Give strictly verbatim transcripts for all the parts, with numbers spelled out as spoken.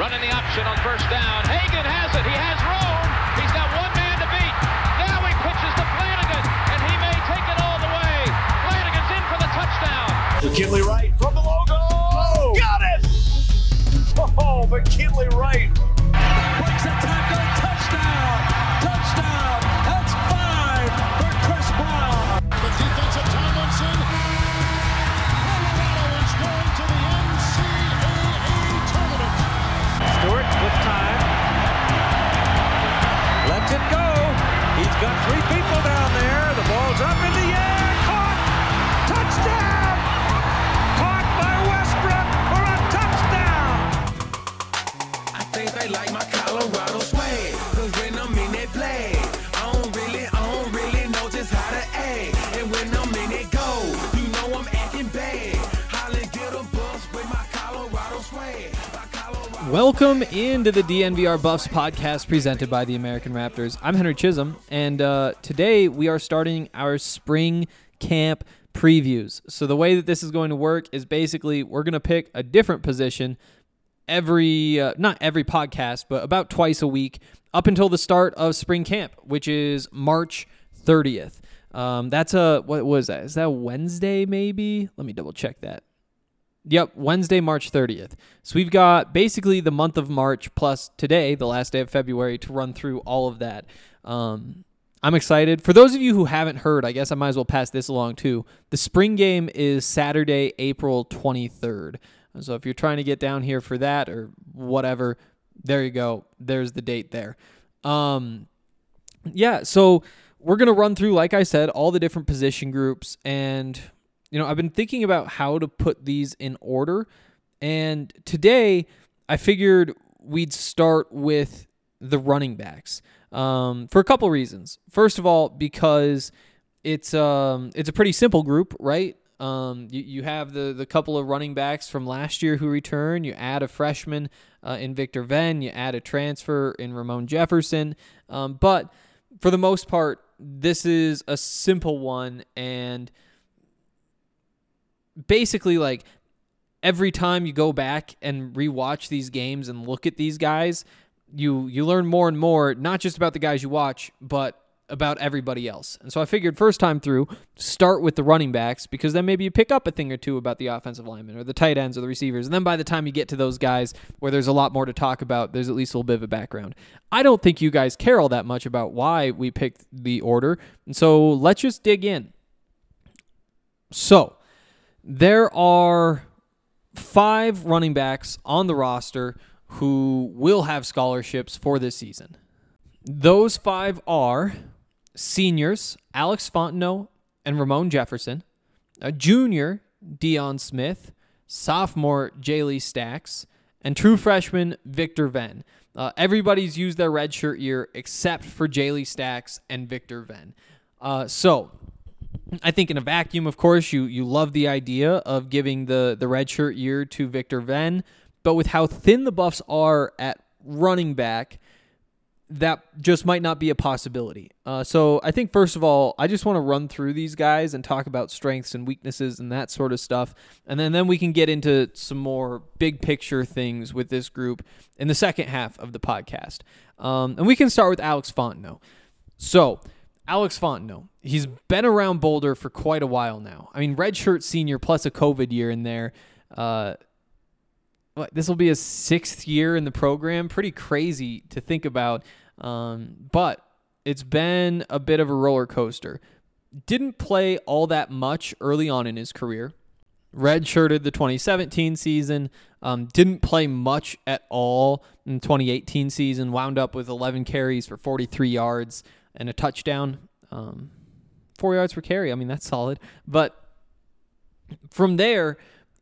Running the option on first down. Hagan has it. He has room. He's got one man to beat. Now he pitches to Flanagan, and he may take it all the way. Flanagan's in for the touchdown. McKinley Wright from the logo. Oh, got it! Oh, McKinley Wright. Breaks a tackle. Touchdown. Touchdown. That's five for Chris Brown. The defensive Tomlinson. Colorado is going to the N C double A tournament. Stewart with time. Lets it go. He's got three people down there. The ball's up in the air. Caught. Touchdown. Caught by Westbrook for a touchdown. I think they like my Colorado swag. Cause when I'm in that play, I don't really, I don't really know just how to act. And when I'm in it go, you know I'm acting bad. Holly get a bus with my Colorado swag. My Colorado Welcome into the D N V R Buffs podcast presented by the American Raptors. I'm Henry Chisholm, and uh, today we are starting our spring camp previews. So the way that this is going to work is basically we're going to pick a different position every, uh, not every podcast, but about twice a week up until the start of spring camp, which is March thirtieth. Um, that's a, what was that? Is that Wednesday maybe? Let me double check that. Yep, Wednesday, March thirtieth. So we've got basically the month of March plus today, the last day of February, to run through all of that. Um, I'm excited. For those of you who haven't heard, I guess I might as well pass this along too. The spring game is Saturday, April twenty-third. So if you're trying to get down here for that or whatever, there you go. There's the date there. Um, yeah, so we're going to run through, like I said, all the different position groups. And, you know, I've been thinking about how to put these in order. And today I figured we'd start with the running backs um, for a couple reasons. First of all, because it's um, it's a pretty simple group, right? Um, you, you have the, the couple of running backs from last year who return. You add a freshman uh, in Victor Venn. You add a transfer in Ramon Jefferson. Um, but for the most part, this is a simple one. And basically, like, every time you go back and rewatch these games and look at these guys, you you learn more and more, not just about the guys you watch, but about everybody else. And so I figured first time through, start with the running backs, because then maybe you pick up a thing or two about the offensive linemen or the tight ends or the receivers. And then by the time you get to those guys where there's a lot more to talk about, there's at least a little bit of a background. I don't think you guys care all that much about why we picked the order. And so let's just dig in. So there are five running backs on the roster who will have scholarships for this season. Those five are seniors Alex Fontenot and Ramon Jefferson, a junior Deion Smith, sophomore Jaylee Stacks, and true freshman Victor Venn. Uh, everybody's used their redshirt year except for Jaylee Stacks and Victor Venn. Uh, so I think in a vacuum, of course, you you love the idea of giving the, the redshirt year to Victor Venn, but with how thin the Buffs are at running back, that just might not be a possibility. Uh, so I think, first of all, I just want to run through these guys and talk about strengths and weaknesses and that sort of stuff. And then, then we can get into some more big picture things with this group in the second half of the podcast. Um, and we can start with Alex Fontenot. So Alex Fontenot, he's been around Boulder for quite a while now. I mean, redshirt senior plus a COVID year in there. Uh, this will be his sixth year in the program. Pretty crazy to think about. Um, but it's been a bit of a roller coaster. Didn't play all that much early on in his career. Redshirted the twenty seventeen season. Um, didn't play much at all in the twenty eighteen season. Wound up with eleven carries for forty-three yards and a touchdown. Um, four yards per carry. I mean, that's solid. But from there,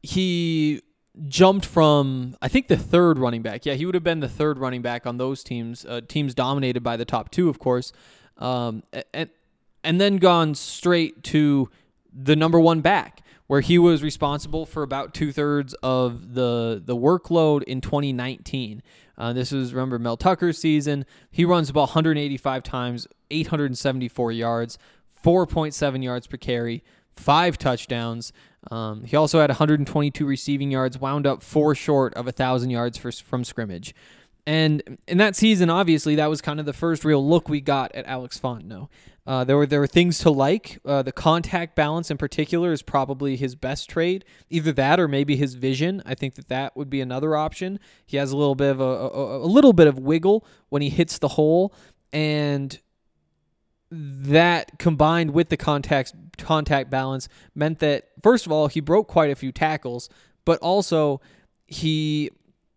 he jumped from, I think, the third running back. Yeah, he would have been the third running back on those teams, uh, teams dominated by the top two, of course, um, and, and then gone straight to the number one back, where he was responsible for about two-thirds of the, the workload in twenty nineteen. Uh, this is, remember, Mel Tucker's season. He runs about one hundred eighty-five times, eight hundred seventy-four yards, four point seven yards per carry, five touchdowns. Um, he also had one hundred twenty-two receiving yards, wound up four short of one thousand yards for, from scrimmage. And in that season, obviously, that was kind of the first real look we got at Alex Fontenot. Uh, there were there were things to like. Uh, the contact balance in particular is probably his best trait. Either that or maybe his vision. I think that that would be another option. He has a little bit of a, a, a little bit of wiggle when he hits the hole, and that combined with the contact contact balance meant that, first of all, he broke quite a few tackles, but also he,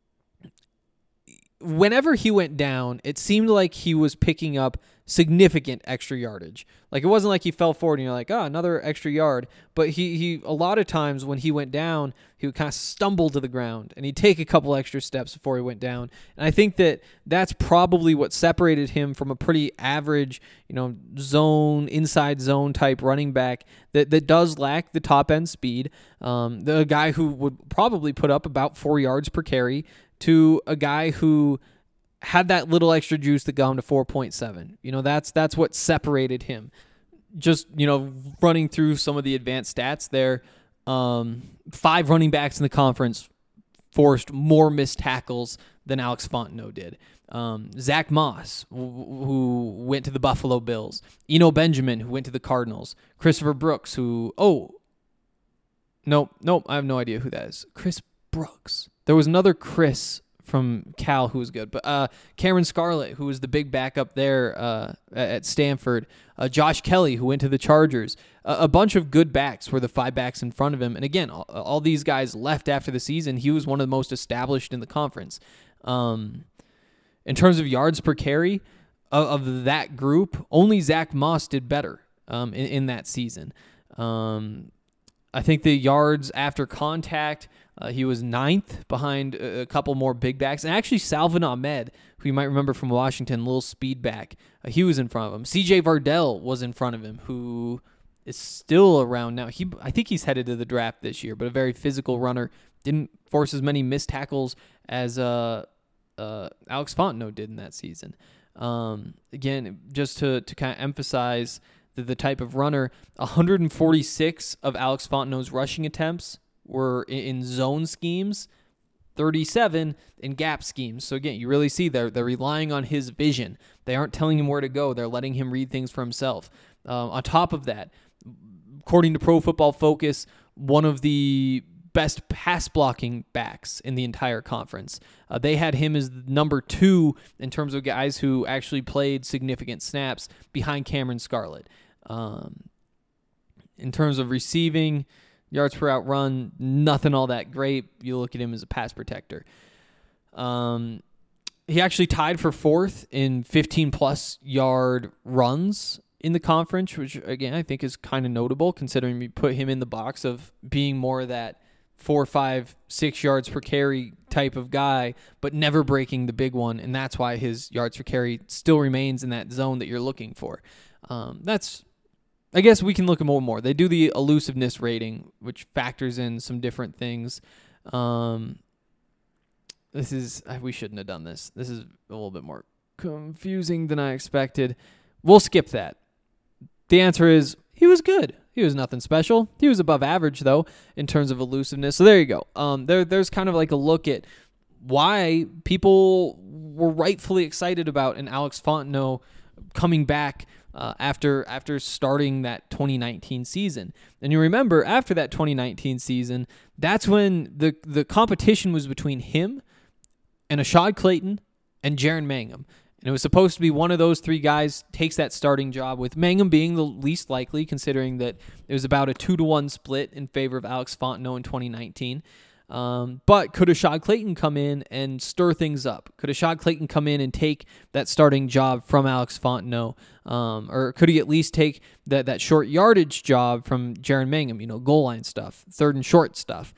whenever he went down, it seemed like he was picking up significant extra yardage. Like, it wasn't like he fell forward and you're like, oh, another extra yard. But he, he a lot of times when he went down, he would kind of stumble to the ground and he'd take a couple extra steps before he went down. And I think that that's probably what separated him from a pretty average, you know, zone, inside zone type running back that, that does lack the top end speed. Um, the guy who would probably put up about four yards per carry to a guy who had that little extra juice that got him to four point seven. You know, that's that's what separated him. Just, you know, running through some of the advanced stats there, um, five running backs in the conference forced more missed tackles than Alex Fontenot did. Um, Zach Moss, who, who went to the Buffalo Bills. Eno Benjamin, who went to the Cardinals. Christopher Brooks, who, oh, nope, nope, I have no idea who that is. Chris Brooks. There was another Chris from Cal who was good, but uh, Cameron Scarlett, who was the big backup there uh, at Stanford, uh, Josh Kelly, who went to the Chargers, uh, a bunch of good backs were the five backs in front of him, and again, all, all these guys left after the season. He was one of the most established in the conference. Um, in terms of yards per carry of, of that group, only Zach Moss did better um, in, in that season. Um, I think the yards after contact, Uh, he was ninth behind a, a couple more big backs. And actually, Salvin Ahmed, who you might remember from Washington, little speed back, uh, he was in front of him. C J Vardell was in front of him, who is still around now. He, I think he's headed to the draft this year, but a very physical runner. Didn't force as many missed tackles as uh, uh, Alex Fontenot did in that season. Um, again, just to, to kind of emphasize the, the type of runner, one hundred forty-six of Alex Fontenot's rushing attempts were in zone schemes, thirty-seven in gap schemes. So again, you really see they're, they're relying on his vision. They aren't telling him where to go. They're letting him read things for himself. Um, on top of that, according to Pro Football Focus, one of the best pass blocking backs in the entire conference. Uh, they had him as number two in terms of guys who actually played significant snaps behind Cameron Scarlett. Um, in terms of receiving, yards per out run, nothing all that great. You look at him as a pass protector. Um, he actually tied for fourth in fifteen-plus yard runs in the conference, which, again, I think is kind of notable considering we put him in the box of being more of that four, five, six yards per carry type of guy, but never breaking the big one, and that's why his yards per carry still remains in that zone that you're looking for. Um, that's... I guess we can look at more and more. They do the elusiveness rating, which factors in some different things. Um, this is, we shouldn't have done this. This is a little bit more confusing than I expected. We'll skip that. The answer is he was good. He was nothing special. He was above average, though, in terms of elusiveness. So there you go. Um, there, there's kind of like a look at why people were rightfully excited about an Alex Fontenot coming back Uh, after after starting that twenty nineteen season. And you remember, after that twenty nineteen season, that's when the, the competition was between him and Ashad Clayton and Jaren Mangham. And it was supposed to be one of those three guys takes that starting job, with Mangham being the least likely, considering that it was about a two to one split in favor of Alex Fontenot in twenty nineteen. Um, but could Ashad Clayton come in and stir things up? Could Ashad Clayton come in and take that starting job from Alex Fontenot? Um, or could he at least take that, that short yardage job from Jaren Mangham, you know, goal line stuff, third and short stuff?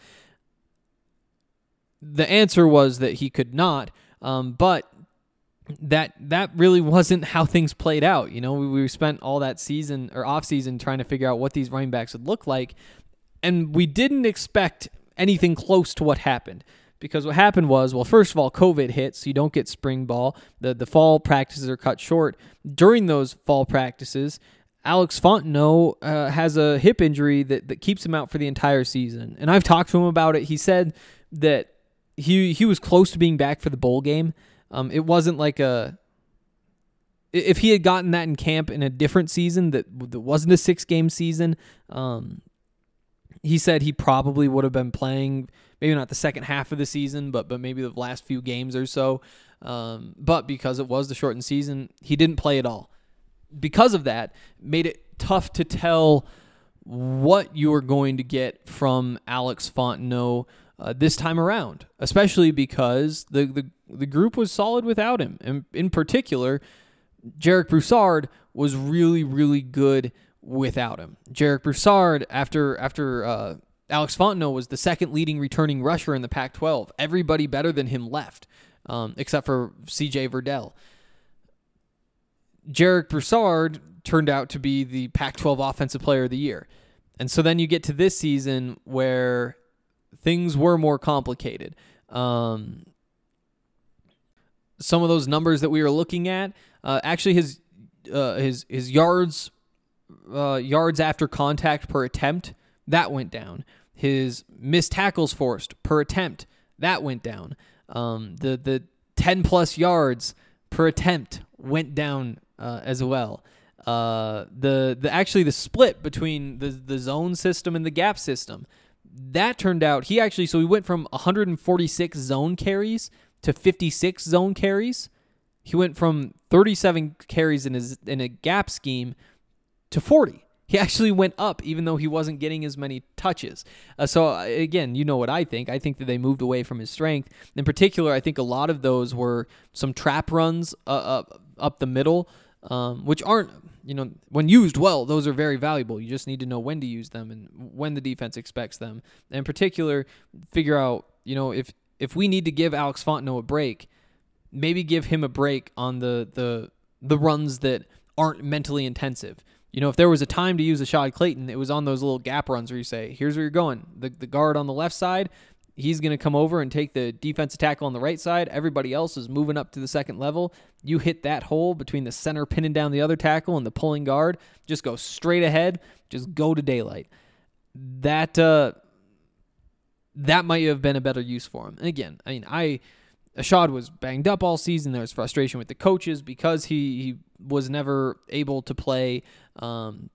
The answer was that he could not, um, but that that really wasn't how things played out. You know, we, we spent all that season or off season trying to figure out what these running backs would look like, and we didn't expect anything close to what happened. Because what happened was, well, first of all, COVID hit, so you don't get spring ball. The the fall practices are cut short. During those fall practices, Alex Fontenot uh, has a hip injury that, that keeps him out for the entire season. And I've talked to him about it. He said that he he was close to being back for the bowl game. Um, it wasn't like a... If he had gotten that in camp in a different season that, that wasn't a six-game season, um, he said he probably would have been playing, maybe not the second half of the season, but but maybe the last few games or so. Um, but because it was the shortened season, he didn't play at all. Because of that, made it tough to tell what you were going to get from Alex Fontenot uh, this time around, especially because the, the, the group was solid without him. And in particular, Jarek Broussard was really, really good without him. Jarek Broussard, after after uh, Alex Fontenot was the second leading returning rusher in the Pac twelve. Everybody better than him left, um, except for C J Verdell. Jarek Broussard turned out to be the Pac twelve Offensive Player of the Year. And so then you get to this season where things were more complicated. Um, some of those numbers that we were looking at, uh, actually his uh, his his yards uh, yards after contact per attempt, that went down. His missed tackles forced per attempt, that went down. Um, the the ten plus yards per attempt went down uh, as well. Uh, the the actually the split between the the zone system and the gap system, that turned out he actually so he went from one hundred forty-six zone carries to fifty-six zone carries. He went from thirty-seven carries in his in a gap scheme to forty. He actually went up, even though he wasn't getting as many touches. Uh, so, uh, again, you know what I think. I think that they moved away from his strength. In particular, I think a lot of those were some trap runs uh, up, up the middle, um, which aren't, you know, when used well, those are very valuable. You just need to know when to use them and when the defense expects them. And in particular, figure out, you know, if, if we need to give Alex Fontenot a break, maybe give him a break on the the the runs that aren't mentally intensive. You know, if there was a time to use Ashad Clayton, it was on those little gap runs where you say, here's where you're going. The the guard on the left side, he's going to come over and take the defensive tackle on the right side. Everybody else is moving up to the second level. You hit that hole between the center pinning down the other tackle and the pulling guard. Just go straight ahead. Just go to daylight. That uh, that might have been a better use for him. And again, I mean, I... Ashad was banged up all season. There was frustration with the coaches because he, he was never able to play. Um,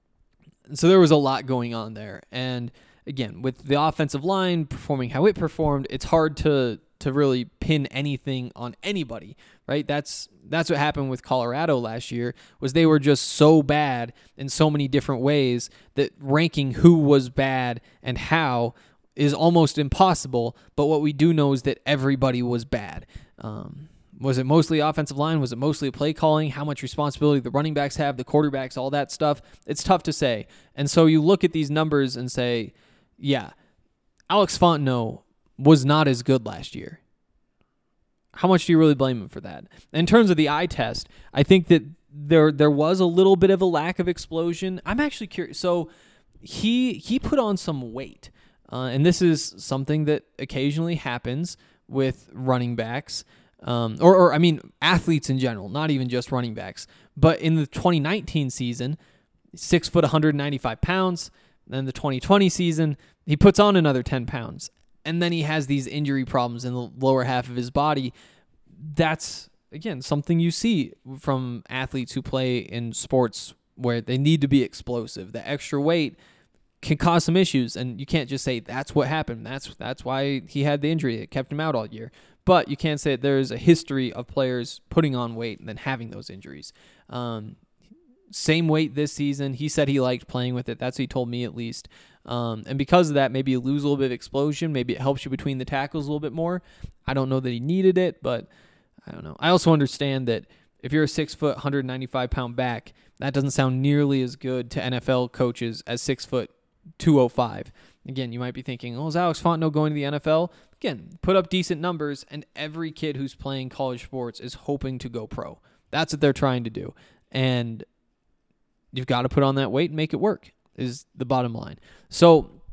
so there was a lot going on there. And again, with the offensive line performing how it performed, it's hard to to really pin anything on anybody, right? That's that's what happened with Colorado last year, was they were just so bad in so many different ways that ranking who was bad and how is almost impossible, but what we do know is that everybody was bad. Um, was it mostly offensive line? Was it mostly play calling? How much responsibility the running backs have, the quarterbacks, all that stuff? It's tough to say. And so you look at these numbers and say, yeah, Alex Fontenot was not as good last year. How much do you really blame him for that? In terms of the eye test, I think that there there was a little bit of a lack of explosion. I'm actually curious. So he he put on some weight. Uh, and this is something that occasionally happens with running backs, um, or, or, I mean, athletes in general, not even just running backs. But in the twenty nineteen season, six foot, one hundred ninety-five pounds. Then the twenty twenty season, he puts on another ten pounds. And then he has these injury problems in the lower half of his body. That's, again, something you see from athletes who play in sports where they need to be explosive. The extra weight can cause some issues, and you can't just say that's what happened. That's that's why he had the injury. It kept him out all year. But you can't say there's a history of players putting on weight and then having those injuries. Um, same weight this season. He said he liked playing with it. That's what he told me, at least. Um, and because of that, maybe you lose a little bit of explosion. Maybe it helps you between the tackles a little bit more. I don't know that he needed it, but I don't know. I also understand that if you're a six foot, one hundred ninety-five pound back, that doesn't sound nearly as good to N F L coaches as six foot, two oh five. Again, you might be thinking, oh, is Alex Fontenot going to the N F L? Again, put up decent numbers, and every kid who's playing college sports is hoping to go pro. That's what they're trying to do. And you've got to put on that weight and make it work, is the bottom line. So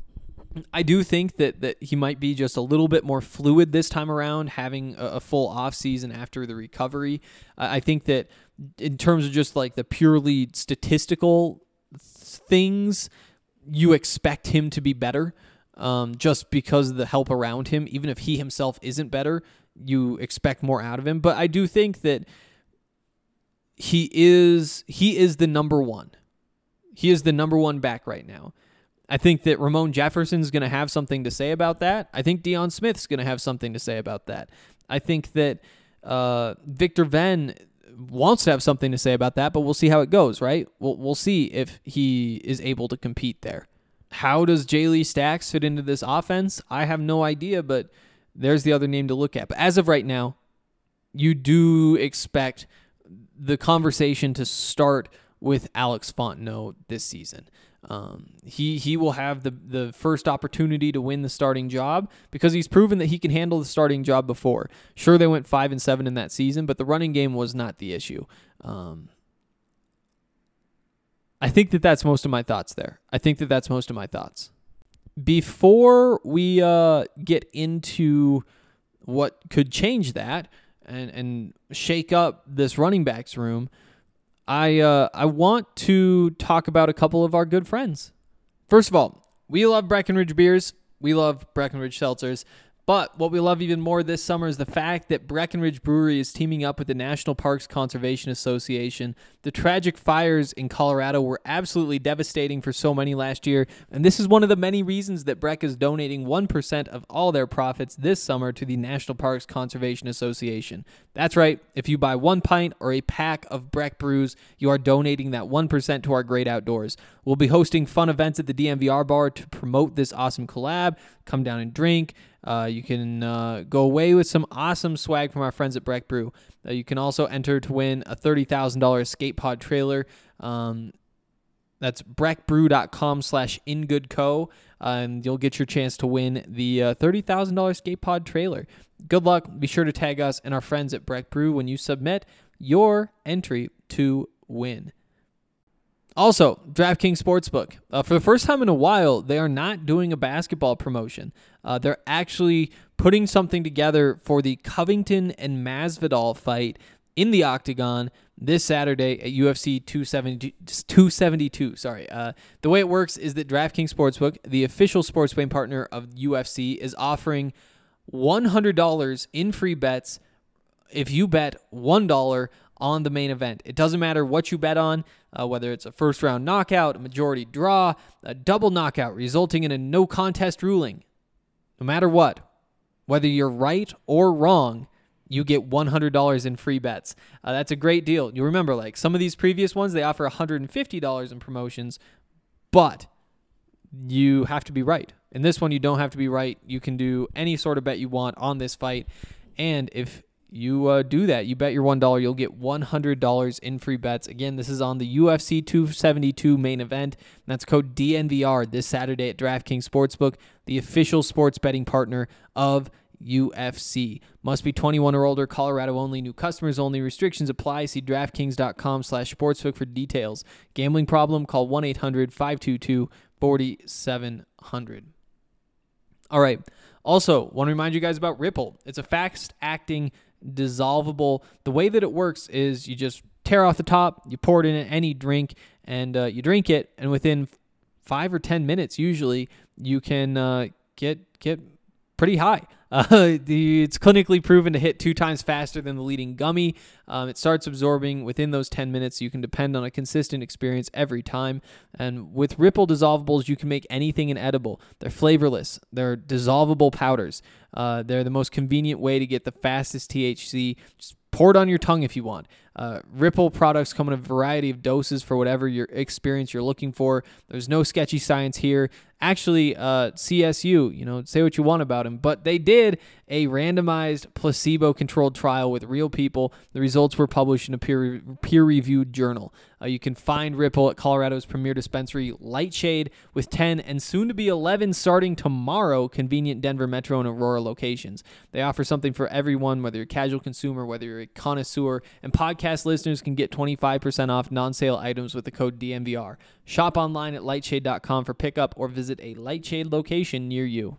I do think that, that he might be just a little bit more fluid this time around, having a, a full offseason after the recovery. Uh, I think that in terms of just like the purely statistical things, you expect him to be better um, just because of the help around him. Even if he himself isn't better, you expect more out of him. But I do think that he is he is the number one. He is the number one back right now. I think that Ramon Jefferson's going to have something to say about that. I think Deion Smith's going to have something to say about that. I think that uh, Victor Venn wants to have something to say about that, but we'll see how it goes, right? We'll, we'll see if he is able to compete there. How does Jay Lee Stacks fit into this offense? I have no idea, but there's the other name to look at. But as of right now, you do expect the conversation to start with Alex Fontenot this season. Um, he he will have the, the first opportunity to win the starting job because he's proven that he can handle the starting job before. Sure, they went five and seven in that season, but the running game was not the issue. Um, I think that that's most of my thoughts there. I think that that's most of my thoughts. Before we uh, get into what could change that and, and shake up this running backs room, I uh, I want to talk about a couple of our good friends. First of all, we love Breckenridge beers. We love Breckenridge seltzers. But what we love even more this summer is the fact that Breckenridge Brewery is teaming up with the National Parks Conservation Association. The tragic fires in Colorado were absolutely devastating for so many last year, and this is one of the many reasons that Breck is donating one percent of all their profits this summer to the National Parks Conservation Association. That's right, if you buy one pint or a pack of Breck brews, you are donating that one percent to our great outdoors. We'll be hosting fun events at the D M V R bar to promote this awesome collab. Come down and drink. Uh, you can uh, go away with some awesome swag from our friends at Breck Brew. Uh, you can also enter to win a thirty thousand dollars skate pod trailer. Um, that's breckbrew.com slash ingoodco, uh, and you'll get your chance to win the uh, thirty thousand dollars skate pod trailer. Good luck. Be sure to tag us and our friends at Breck Brew when you submit your entry to win. Also, DraftKings Sportsbook. Uh, for the first time in a while, they are not doing a basketball promotion. Uh, they're actually putting something together for the Covington and Masvidal fight in the Octagon this Saturday at U F C two seventy-two. Sorry. Uh, the way it works is that DraftKings Sportsbook, the official sports betting partner of U F C, is offering one hundred dollars in free bets if you bet one dollar on the main event. It doesn't matter what you bet on, uh, whether it's a first-round knockout, a majority draw, a double knockout resulting in a no-contest ruling. No matter what, whether you're right or wrong, you get one hundred dollars in free bets. Uh, that's a great deal. You remember, like, some of these previous ones, they offer one hundred fifty dollars in promotions, but you have to be right. In this one, you don't have to be right. You can do any sort of bet you want on this fight, and if you uh, do that, you bet your one dollar, you'll get one hundred dollars in free bets. Again, this is on the U F C two seventy-two main event. And that's code D N V R this Saturday at DraftKings Sportsbook, the official sports betting partner of U F C. Must be twenty-one or older, Colorado only, new customers only, restrictions apply. See DraftKings.com slash sportsbook for details. Gambling problem? Call one eight hundred five two two four seven zero zero. All right. Also, want to remind you guys about Ripple. It's a fast-acting dissolvable. The way that it works is you just tear off the top, you pour it in any drink, and uh, you drink it, and within five or ten minutes, usually, you can uh, get get pretty high. Uh, the, it's clinically proven to hit two times faster than the leading gummy. Um, it starts absorbing within those ten minutes. You can depend on a consistent experience every time. And with Ripple dissolvables, you can make anything inedible. They're flavorless. They're dissolvable powders. Uh, they're the most convenient way to get the fastest T H C. Just pour it on your tongue if you want. Uh, Ripple products come in a variety of doses for whatever your experience you're looking for. There's no sketchy science here. Actually, uh, C S U, you know, say what you want about them, but they did a randomized placebo-controlled trial with real people. The results were published in a peer, peer-reviewed journal. Uh, you can find Ripple at Colorado's premier dispensary, Lightshade, with ten and soon to be eleven starting tomorrow, convenient Denver Metro and Aurora locations. They offer something for everyone, whether you're a casual consumer, whether you're a connoisseur, and podcast podcast listeners can get twenty-five percent off non-sale items with the code D M V R. Shop online at lightshade dot com for pickup or visit a Lightshade location near you.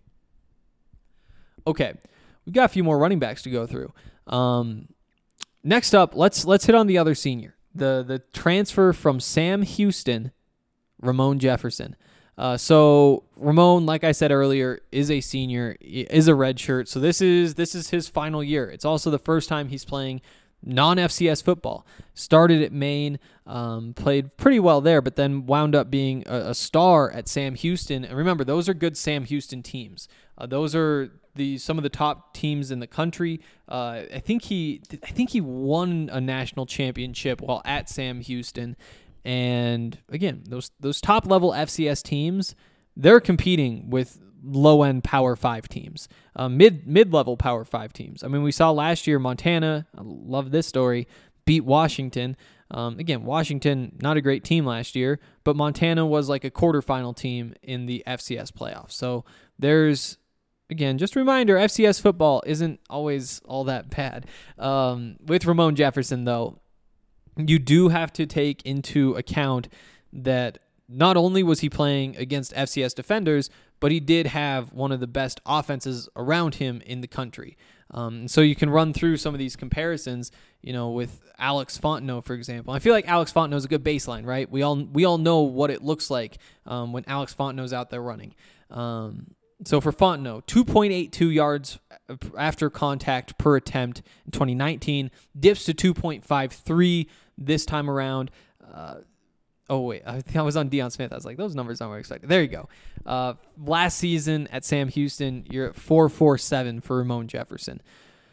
Okay, we've got a few more running backs to go through. Um, next up, let's let's hit on the other senior, the the transfer from Sam Houston, Ramon Jefferson. Uh, so Ramon, like I said earlier, is a senior, is a redshirt. So this is this is his final year. It's also the first time he's playing non-F C S football. Started at Maine, um, played pretty well there, but then wound up being a, a star at Sam Houston. And remember, those are good Sam Houston teams. Uh, those are the some of the top teams in the country. Uh, I think he I think he won a national championship while at Sam Houston. And again, those those top level F C S teams, they're competing with low end Power Five teams, uh, mid mid level Power Five teams. I mean, we saw last year Montana. I love this story. Beat Washington. Um, again, Washington not a great team last year, but Montana was like a quarterfinal team in the F C S playoffs. So there's again just a reminder: F C S football isn't always all that bad. Um, with Ramon Jefferson, though, you do have to take into account that not only was he playing against F C S defenders, but he did have one of the best offenses around him in the country. Um, so you can run through some of these comparisons, you know, with Alex Fontenot, for example. I feel like Alex Fontenot is a good baseline, right? We all we all know what it looks like um, when Alex Fontenot's out there running. Um, so for Fontenot, two point eight two yards after contact per attempt in twenty nineteen, dips to two point five three this time around. Uh, oh, wait, I think I was on Deion Smith. I was like, those numbers aren't what I expected. There you go. Uh, last season at Sam Houston, you're at four forty-seven for Ramon Jefferson.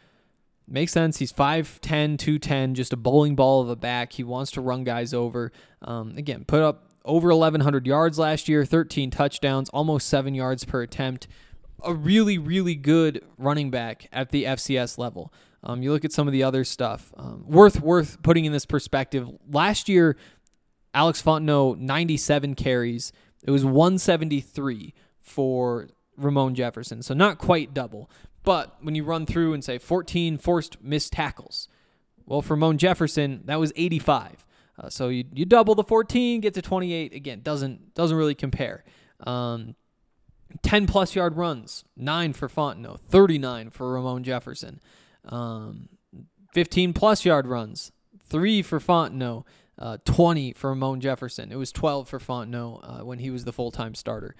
Makes sense. He's five ten, two ten, just a bowling ball of a back. He wants to run guys over. Um, again, put up over eleven hundred yards last year, thirteen touchdowns, almost seven yards per attempt. A really, really good running back at the F C S level. Um, you look at some of the other stuff. Um, worth worth putting in this perspective. Last year, Alex Fontenot, ninety-seven carries. It was one seventy-three for Ramon Jefferson, so not quite double. But when you run through and say fourteen forced missed tackles, well, for Ramon Jefferson, that was eighty-five. Uh, so you you double the fourteen, get to twenty-eight. Again, doesn't doesn't really compare. Um, ten plus yard runs, nine for Fontenot, thirty-nine for Ramon Jefferson. Um, fifteen plus yard runs, three for Fontenot, uh, twenty for Ramon Jefferson. It was twelve for Fontenot uh, when he was the full-time starter.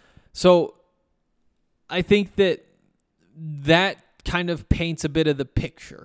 So I think that that kind of paints a bit of the picture.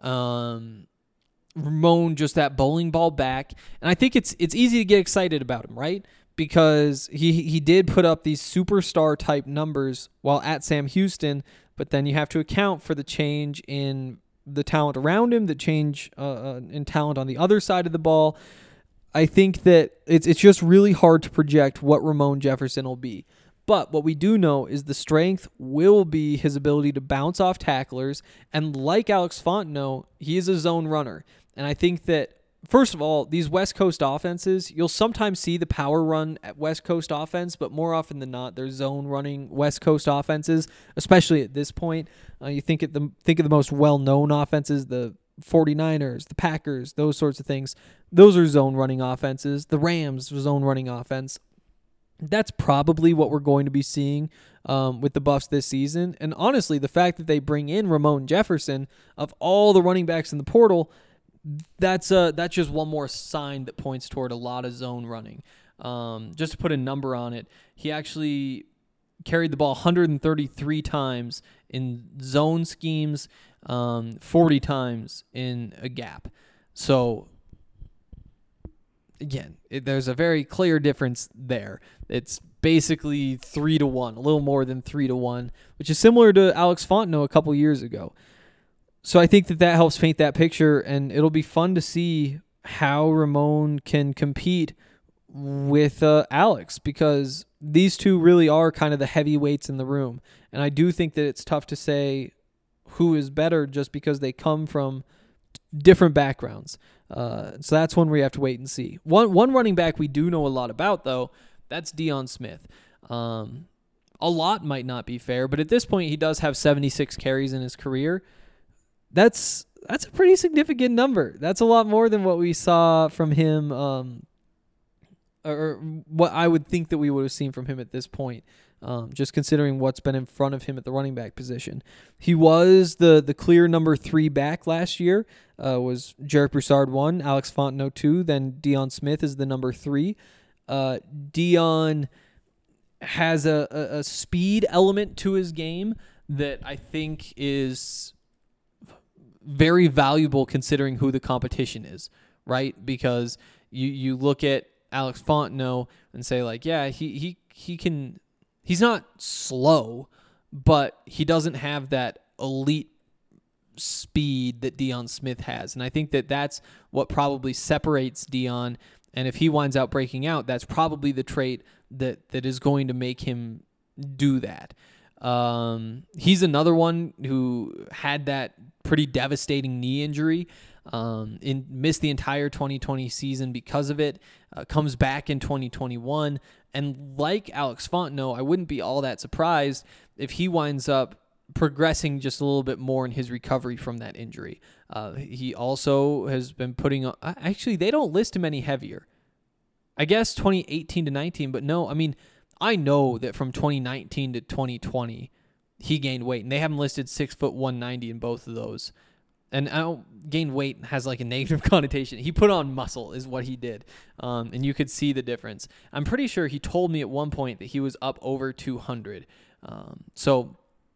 Um, Ramon, just that bowling ball back. And I think it's it's easy to get excited about him, right? Because he he did put up these superstar type numbers while at Sam Houston, but then you have to account for the change in the talent around him, the change uh, in talent on the other side of the ball. I think that it's it's just really hard to project what Ramon Jefferson will be. But what we do know is the strength will be his ability to bounce off tacklers, and like Alex Fontenot, he is a zone runner. And I think that, first of all, these West Coast offenses, you'll sometimes see the power run at West Coast offense, but more often than not, they're zone running West Coast offenses, especially at this point. Uh, you think at the think of the most well-known offenses, the forty-niners, the Packers, those sorts of things. Those are zone running offenses. The Rams, zone running offense. That's probably what we're going to be seeing um, with the Buffs this season. And honestly, the fact that they bring in Ramon Jefferson, of all the running backs in the portal, that's uh, that's just one more sign that points toward a lot of zone running. Um, just to put a number on it, he actually carried the ball one hundred thirty-three times in zone schemes, um, forty times in a gap. So again, it, there's a very clear difference there. It's basically three to one, a little more than three to one, which is similar to Alex Fontenot a couple years ago. So I think that that helps paint that picture, and it'll be fun to see how Ramon can compete with uh, Alex, because these two really are kind of the heavyweights in the room. And I do think that it's tough to say who is better just because they come from different backgrounds. Uh, so that's one where you have to wait and see. One one running back we do know a lot about, though, that's Deion Smith. Um, a lot might not be fair, but at this point he does have seventy-six carries in his career. That's that's a pretty significant number. That's a lot more than what we saw from him, um, or what I would think that we would have seen from him at this point. Um, just considering what's been in front of him at the running back position. He was the the clear number three back last year. Uh, was Jarek Broussard one, Alex Fontenot two, then Deion Smith is the number three. Uh, Deion has a, a, a speed element to his game that I think is very valuable considering who the competition is, right? Because you, you look at Alex Fontenot and say, like, yeah, he he he can... He's not slow, but he doesn't have that elite speed that Deion Smith has. And I think that that's what probably separates Deion. And if he winds out breaking out, that's probably the trait that, that is going to make him do that. Um, he's another one who had that pretty devastating knee injury. Um, in, missed the entire twenty twenty season because of it, uh, comes back in twenty twenty-one, and like Alex Fontenot, I wouldn't be all that surprised if he winds up progressing just a little bit more in his recovery from that injury. Uh, he also has been putting on, actually, they don't list him any heavier. I guess twenty eighteen to nineteen, but no, I mean, I know that from twenty nineteen to twenty twenty, he gained weight, and they have him listed six foot one ninety in both of those. And I don't gain weight has like a negative connotation. He put on muscle is what he did. Um, and you could see the difference. I'm pretty sure he told me at one point that he was up over two hundred. Um, so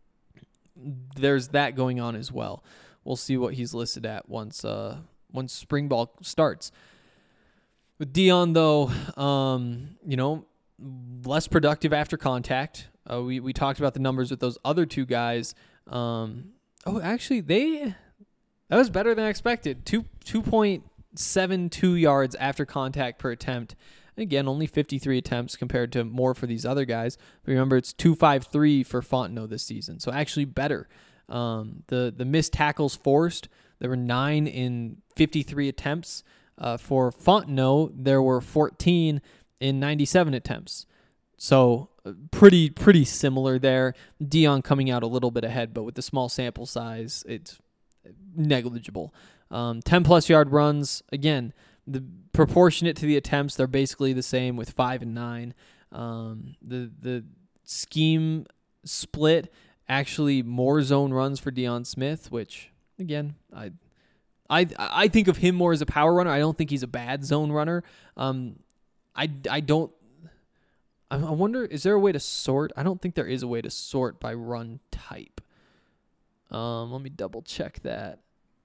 there's that going on as well. We'll see what he's listed at once uh, once spring ball starts. With Deion, though, um, you know, less productive after contact. Uh, we, we talked about the numbers with those other two guys. Um, oh, actually, they... That was better than I expected. Two two point seven two yards after contact per attempt. Again, only fifty-three attempts compared to more for these other guys. But remember, it's two fifty-three for Fontenot this season, so actually better. Um, the the missed tackles forced, there were nine in fifty-three attempts. Uh, for Fontenot, there were fourteen in ninety-seven attempts. So uh, pretty pretty similar there. Deion coming out a little bit ahead, but with the small sample size, it's negligible. Um, ten plus yard runs, again, the proportionate to the attempts, they're basically the same with five and nine. Um, the the scheme split, actually more zone runs for Deion Smith, which again, I I I think of him more as a power runner. I don't think he's a bad zone runner. Um, I I don't. I wonder, is there a way to sort? I don't think there is a way to sort by run type. Um, let me double check that.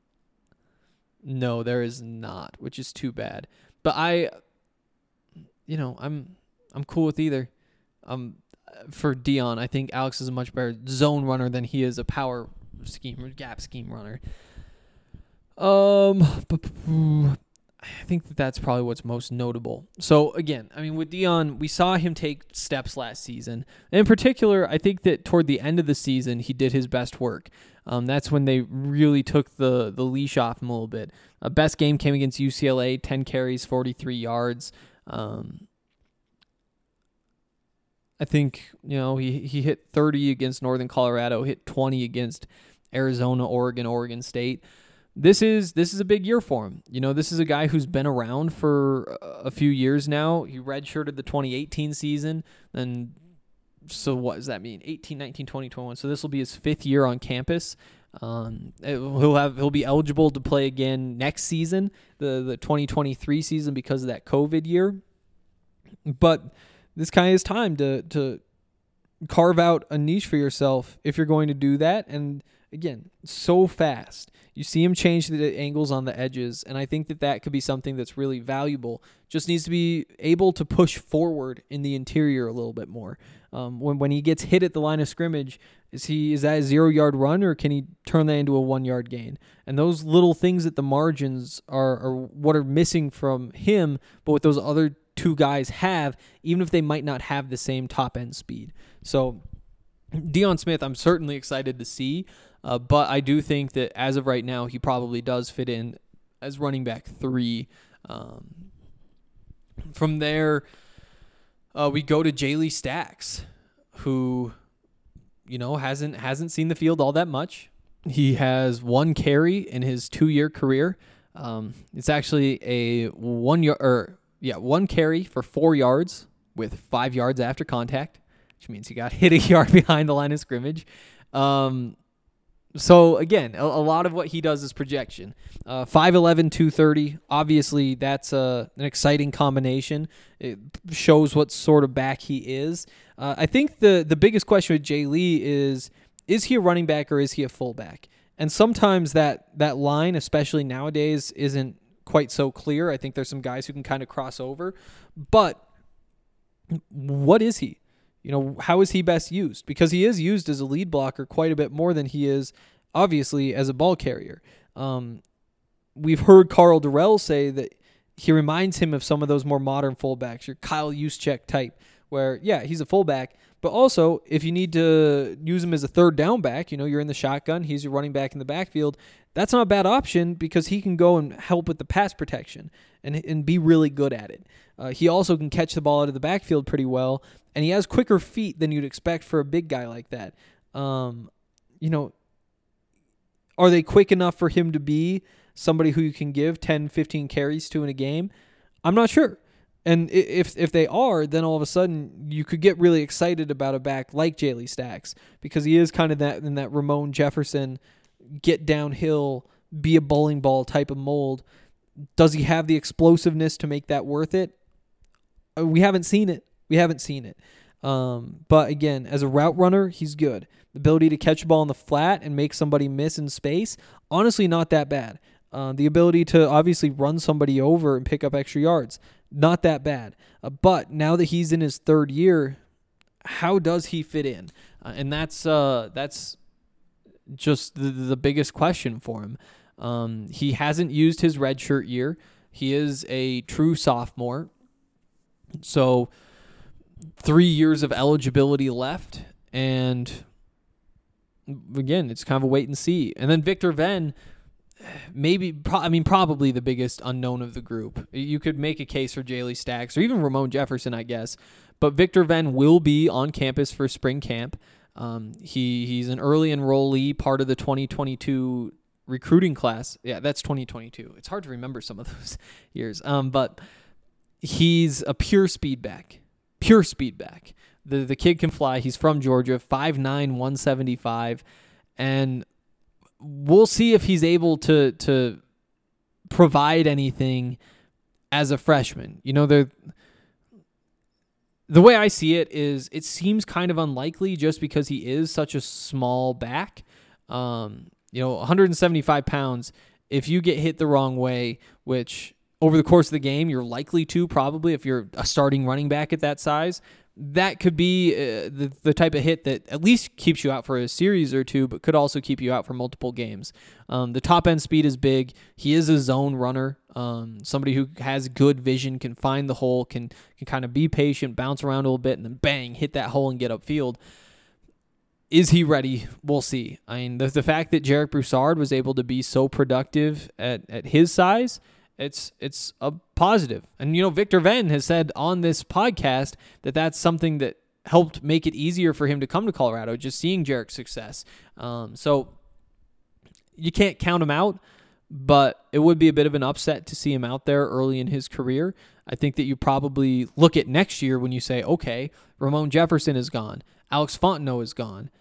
No, there is not, which is too bad. But I, you know, I'm I'm cool with either. Um, for Deion, I think Alex is a much better zone runner than he is a power scheme or gap scheme runner. Um, I think that that's probably what's most notable. So again, I mean, with Deion, we saw him take steps last season. And in particular, I think that toward the end of the season, he did his best work. Um, that's when they really took the, the leash off him a little bit. Uh, best game came against U C L A, ten carries, forty-three yards. Um, I think, you know, he, he hit thirty against Northern Colorado, hit twenty against Arizona, Oregon, Oregon State. This is this is a big year for him. You know, this is a guy who's been around for a few years now. He redshirted the twenty eighteen season, and so what does that mean? eighteen, nineteen, twenty, twenty-one. So this will be his fifth year on campus. Um, he'll have he'll be eligible to play again next season, the the twenty twenty-three season, because of that COVID year. But this kind of is time to to carve out a niche for yourself if you're going to do that. And again, so fast. You see him change the angles on the edges, and I think that that could be something that's really valuable. Just needs to be able to push forward in the interior a little bit more. Um, when when he gets hit at the line of scrimmage, is he is that a zero-yard run, or can he turn that into a one-yard gain? And those little things at the margins are, are what are missing from him, but what those other two guys have, even if they might not have the same top-end speed. So Deion Smith, I'm certainly excited to see. Uh, but I do think that as of right now, he probably does fit in as running back three. Um, from there, uh, we go to Jaylee Stacks, who, you know, hasn't hasn't seen the field all that much. He has one carry in his two-year career. Um, it's actually a one yard, or yeah, one carry for four yards with five yards after contact, which means he got hit a yard behind the line of scrimmage. Um, so again, a, a lot of what he does is projection. Uh, five eleven, two thirty. Obviously, that's a, an exciting combination. It shows what sort of back he is. Uh, I think the the biggest question with Jay Lee is, is he a running back or is he a fullback? And sometimes that that line, especially nowadays, isn't quite so clear. I think there's some guys who can kind of cross over. But what is he? You know, how is he best used? Because he is used as a lead blocker quite a bit more than he is, obviously, as a ball carrier. Um, we've heard Carl Durrell say that he reminds him of some of those more modern fullbacks, your Kyle Juszczyk type, where, yeah, he's a fullback, but also if you need to use him as a third down back, you know, you're in the shotgun, he's your running back in the backfield, that's not a bad option because he can go and help with the pass protection and, and be really good at it. Uh, he also can catch the ball out of the backfield pretty well, and he has quicker feet than you'd expect for a big guy like that. Um, you know, are they quick enough for him to be somebody who you can give ten, fifteen carries to in a game? I'm not sure. And if if they are, then all of a sudden you could get really excited about a back like Jaylee Stacks because he is kind of that in that Ramon Jefferson get downhill, be a bowling ball type of mold. Does he have the explosiveness to make that worth it? We haven't seen it. We haven't seen it. Um, but again, as a route runner, he's good. The ability to catch a ball in the flat and make somebody miss in space, honestly, not that bad. Uh, the ability to obviously run somebody over and pick up extra yards, not that bad. Uh, but now that he's in his third year, how does he fit in? Uh, and that's uh, that's just the, the biggest question for him. Um, he hasn't used his redshirt year. He is a true sophomore. So three years of eligibility left. And again, it's kind of a wait and see. And then Victor Venn, maybe, pro- I mean, probably the biggest unknown of the group. You could make a case for Jaylee Stacks or even Ramon Jefferson, I guess. But Victor Venn will be on campus for spring camp. Um, he he's an early enrollee, part of the twenty twenty-two recruiting class. Yeah, that's twenty twenty-two. It's hard to remember some of those years. Um, but he's a pure speed back. Pure speed back. The the kid can fly. He's from Georgia, five nine, one seventy-five. And we'll see if he's able to to provide anything as a freshman. You know, the the way I see it is it seems kind of unlikely just because he is such a small back. Um, you know, one hundred seventy-five pounds, if you get hit the wrong way, which over the course of the game you're likely to probably if you're a starting running back at that size, that could be uh, the, the type of hit that at least keeps you out for a series or two, but could also keep you out for multiple games. Um, the top end speed is big. He is a zone runner. Um, somebody who has good vision, can find the hole, can can kind of be patient, bounce around a little bit, and then bang, hit that hole and get upfield. Is he ready? We'll see. I mean, the, the fact that Jarek Broussard was able to be so productive at, at his size, It's it's a positive. And, you know, Victor Venn has said on this podcast that that's something that helped make it easier for him to come to Colorado, just seeing Jarek's success. Um, so you can't count him out, but it would be a bit of an upset to see him out there early in his career. I think that you probably look at next year when you say, okay, Ramon Jefferson is gone. Alex Fontenot is gone.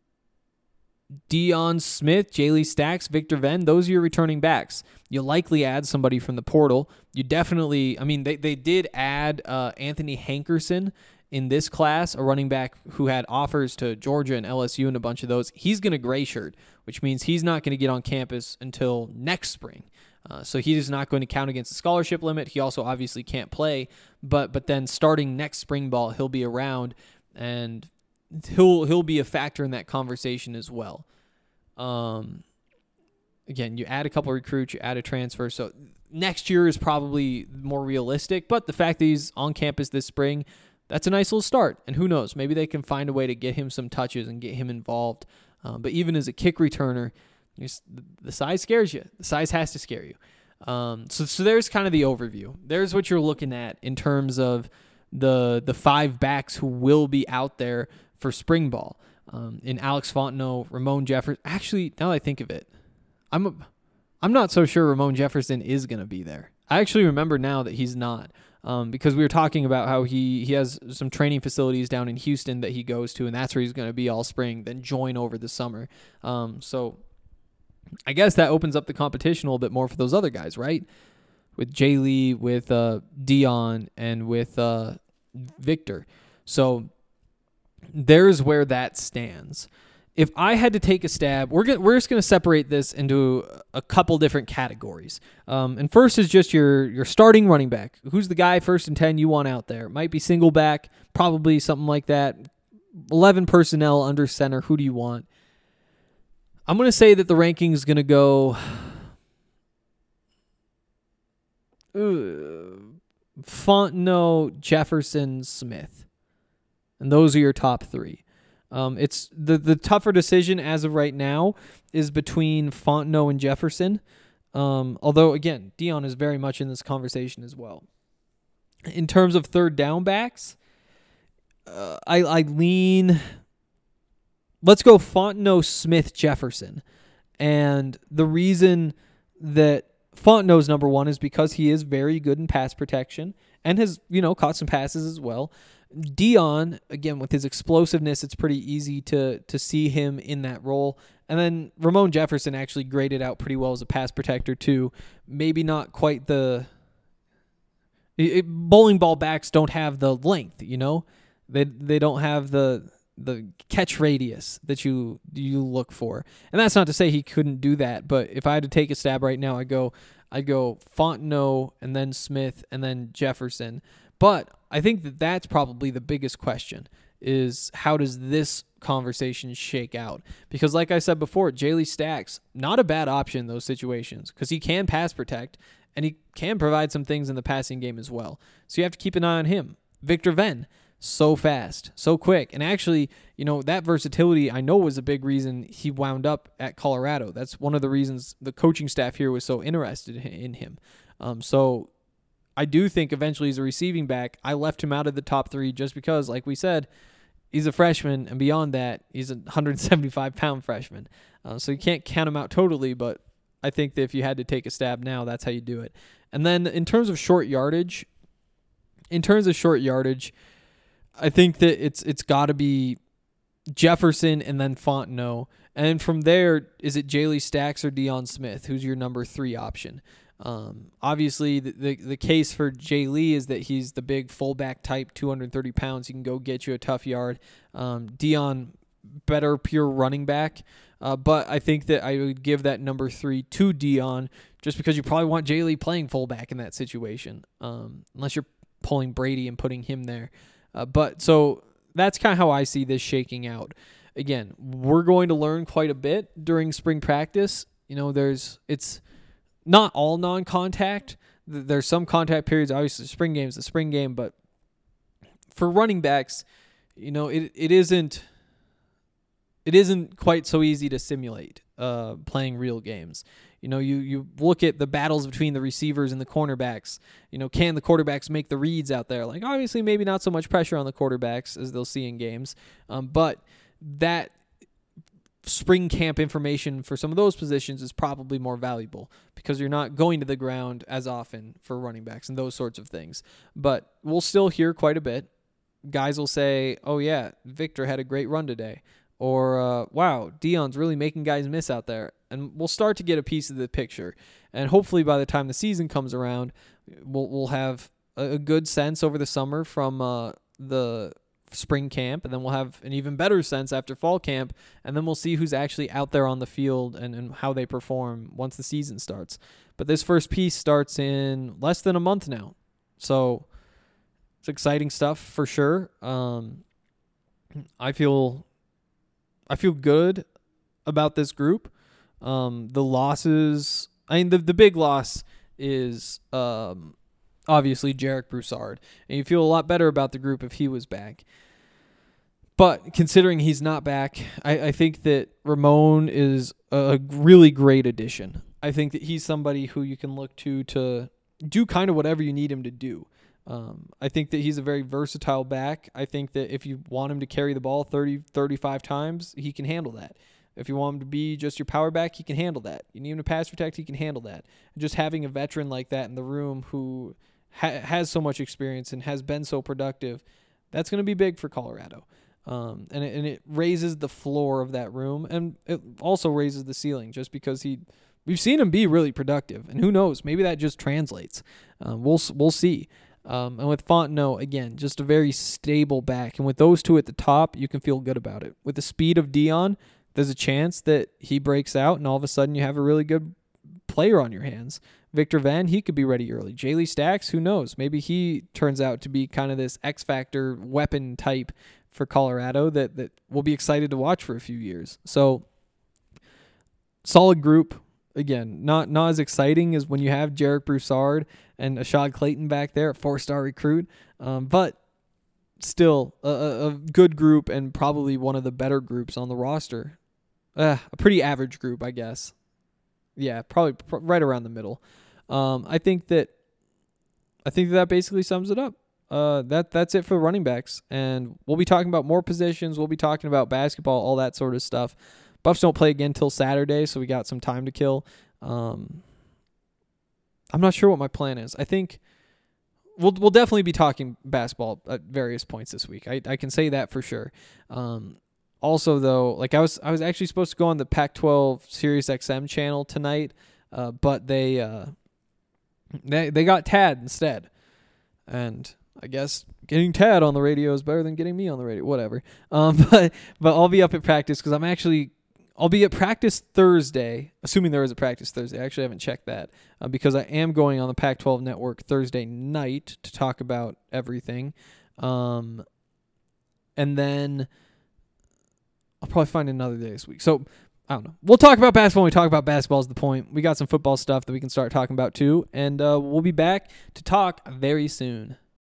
Deion Smith, Jaylee Stacks, Victor Venn, those are your returning backs. You'll likely add somebody from the portal. You definitely, I mean, they, they did add uh, Anthony Hankerson in this class, a running back who had offers to Georgia and L S U and a bunch of those. He's going to gray shirt, which means he's not going to get on campus until next spring. Uh, so he is not going to count against the scholarship limit. He also obviously can't play, but but then starting next spring ball, he'll be around, and he'll he'll be a factor in that conversation as well. Um, again, you add a couple of recruits, you add a transfer, so next year is probably more realistic, but the fact that he's on campus this spring, that's a nice little start, and who knows, maybe they can find a way to get him some touches and get him involved. Um, but even as a kick returner, the size scares you. The size has to scare you. Um, so so there's kind of the overview. There's what you're looking at in terms of the the five backs who will be out there for spring ball. Um, in Alex Fontenot, Ramon Jefferson. Actually, now that I think of it, I'm a, I'm not so sure Ramon Jefferson is going to be there. I actually remember now that he's not, um, because we were talking about how he, he has some training facilities down in Houston that he goes to, and that's where he's going to be all spring, then join over the summer. Um, so I guess that opens up the competition a little bit more for those other guys, right? With Jay Lee, with uh, Dion, and with uh, Victor. So there's where that stands. If I had to take a stab, we're gonna, we're just going to separate this into a couple different categories. Um, and first is just your your starting running back. Who's the guy first and ten you want out there? It might be single back, probably something like that. eleven personnel under center. Who do you want? I'm going to say that the ranking is going to go uh, Fontenot, Jefferson, Smith. And those are your top three. Um, it's the, the tougher decision as of right now is between Fontenot and Jefferson. Um, although, again, Dion is very much in this conversation as well. In terms of third down backs, uh, I, I lean... Let's go Fontenot, Smith, Jefferson. And the reason that Fontenot's number one is because he is very good in pass protection and has, you know, caught some passes as well. Dion, again, with his explosiveness, it's pretty easy to to see him in that role. And then Ramon Jefferson actually graded out pretty well as a pass protector too. Maybe not quite the... It, bowling ball backs don't have the length, you know? They they don't have the the catch radius that you you look for. And that's not to say he couldn't do that, but if I had to take a stab right now, I'd go, I'd go Fontenot and then Smith and then Jefferson. But I think that that's probably the biggest question is how does this conversation shake out? Because like I said before, Jaylee Stacks, not a bad option in those situations because he can pass protect and he can provide some things in the passing game as well. So you have to keep an eye on him. Victor Venn, so fast, so quick. And actually, you know, that versatility I know was a big reason he wound up at Colorado. That's one of the reasons the coaching staff here was so interested in him. Um, so I do think eventually as a receiving back, I left him out of the top three just because, like we said, he's a freshman, and beyond that, he's a one hundred seventy-five pound freshman. Uh, so you can't count him out totally, but I think that if you had to take a stab now, that's how you do it. And then in terms of short yardage, in terms of short yardage, I think that it's it's got to be Jefferson and then Fontenot. And from there, is it Jaylee Stacks or Dion Smith? Who's your number three option? Um, obviously, the, the the case for Jay Lee is that he's the big fullback type, two hundred thirty pounds. He can go get you a tough yard. Um, Dion, better pure running back. Uh, but I think that I would give that number three to Dion just because you probably want Jay Lee playing fullback in that situation, um, unless you're pulling Brady and putting him there. Uh, but so that's kind of how I see this shaking out. Again, we're going to learn quite a bit during spring practice. You know, there's it's not all non-contact. There's some contact periods. Obviously, the spring game is the spring game, but for running backs, you know, it it isn't it isn't quite so easy to simulate uh, playing real games. You know, you, you look at the battles between the receivers and the cornerbacks. You know, can the quarterbacks make the reads out there? Like, obviously, maybe not so much pressure on the quarterbacks as they'll see in games. Um, but that spring camp information for some of those positions is probably more valuable because you're not going to the ground as often for running backs and those sorts of things. But we'll still hear quite a bit. Guys will say, oh, yeah, Victor had a great run today. Or, uh, wow, Dion's really making guys miss out there. And we'll start to get a piece of the picture. And hopefully by the time the season comes around, we'll we'll have a, a good sense over the summer from uh, the spring camp. And then we'll have an even better sense after fall camp. And then we'll see who's actually out there on the field and, and how they perform once the season starts. But this first piece starts in less than a month now. So it's exciting stuff for sure. Um, I feel... I feel good about this group. Um, the losses, I mean, the, the big loss is um, obviously Jarek Broussard. And you feel a lot better about the group if he was back. But considering he's not back, I, I think that Ramon is a really great addition. I think that he's somebody who you can look to to do kind of whatever you need him to do. Um, I think that he's a very versatile back. I think that if you want him to carry the ball thirty, thirty-five times, he can handle that. If you want him to be just your power back, he can handle that. You need him to pass protect, he can handle that. And just having a veteran like that in the room who ha- has so much experience and has been so productive, that's going to be big for Colorado. Um, and, it, and it raises the floor of that room, and it also raises the ceiling just because he we've seen him be really productive. And who knows, maybe that just translates. Um, we'll we'll see. Um, and with Fontenot, again, just a very stable back. And with those two at the top, you can feel good about it. With the speed of Dion, there's a chance that he breaks out and all of a sudden you have a really good player on your hands. Victor Van, he could be ready early. Jaylee Stacks, who knows? Maybe he turns out to be kind of this X-Factor weapon type for Colorado that, that we'll be excited to watch for a few years. So, solid group. Again, not not as exciting as when you have Jarek Broussard and Ashad Clayton back there, a four-star recruit, um, but still a, a good group and probably one of the better groups on the roster. Uh, a pretty average group, I guess. Yeah, probably pr- right around the middle. Um, I think that I think that basically sums it up. Uh, that that's it for running backs, and we'll be talking about more positions. We'll be talking about basketball, all that sort of stuff. Buffs don't play again till Saturday, so we got some time to kill. Um, I'm not sure what my plan is. I think we'll we'll definitely be talking basketball at various points this week. I I can say that for sure. Um, also though, like I was I was actually supposed to go on the Pac twelve Sirius X M channel tonight, uh, but they uh they they got Tad instead, and I guess getting Tad on the radio is better than getting me on the radio. Whatever. Um, but but I'll be up at practice because I'm actually. I'll be at practice Thursday, assuming there is a practice Thursday. I actually haven't checked that uh, because I am going on the Pac twelve network Thursday night to talk about everything. Um, and then I'll probably find another day this week. So, I don't know. We'll talk about basketball when we talk about basketball is the point. We got some football stuff that we can start talking about too. And uh, we'll be back to talk very soon.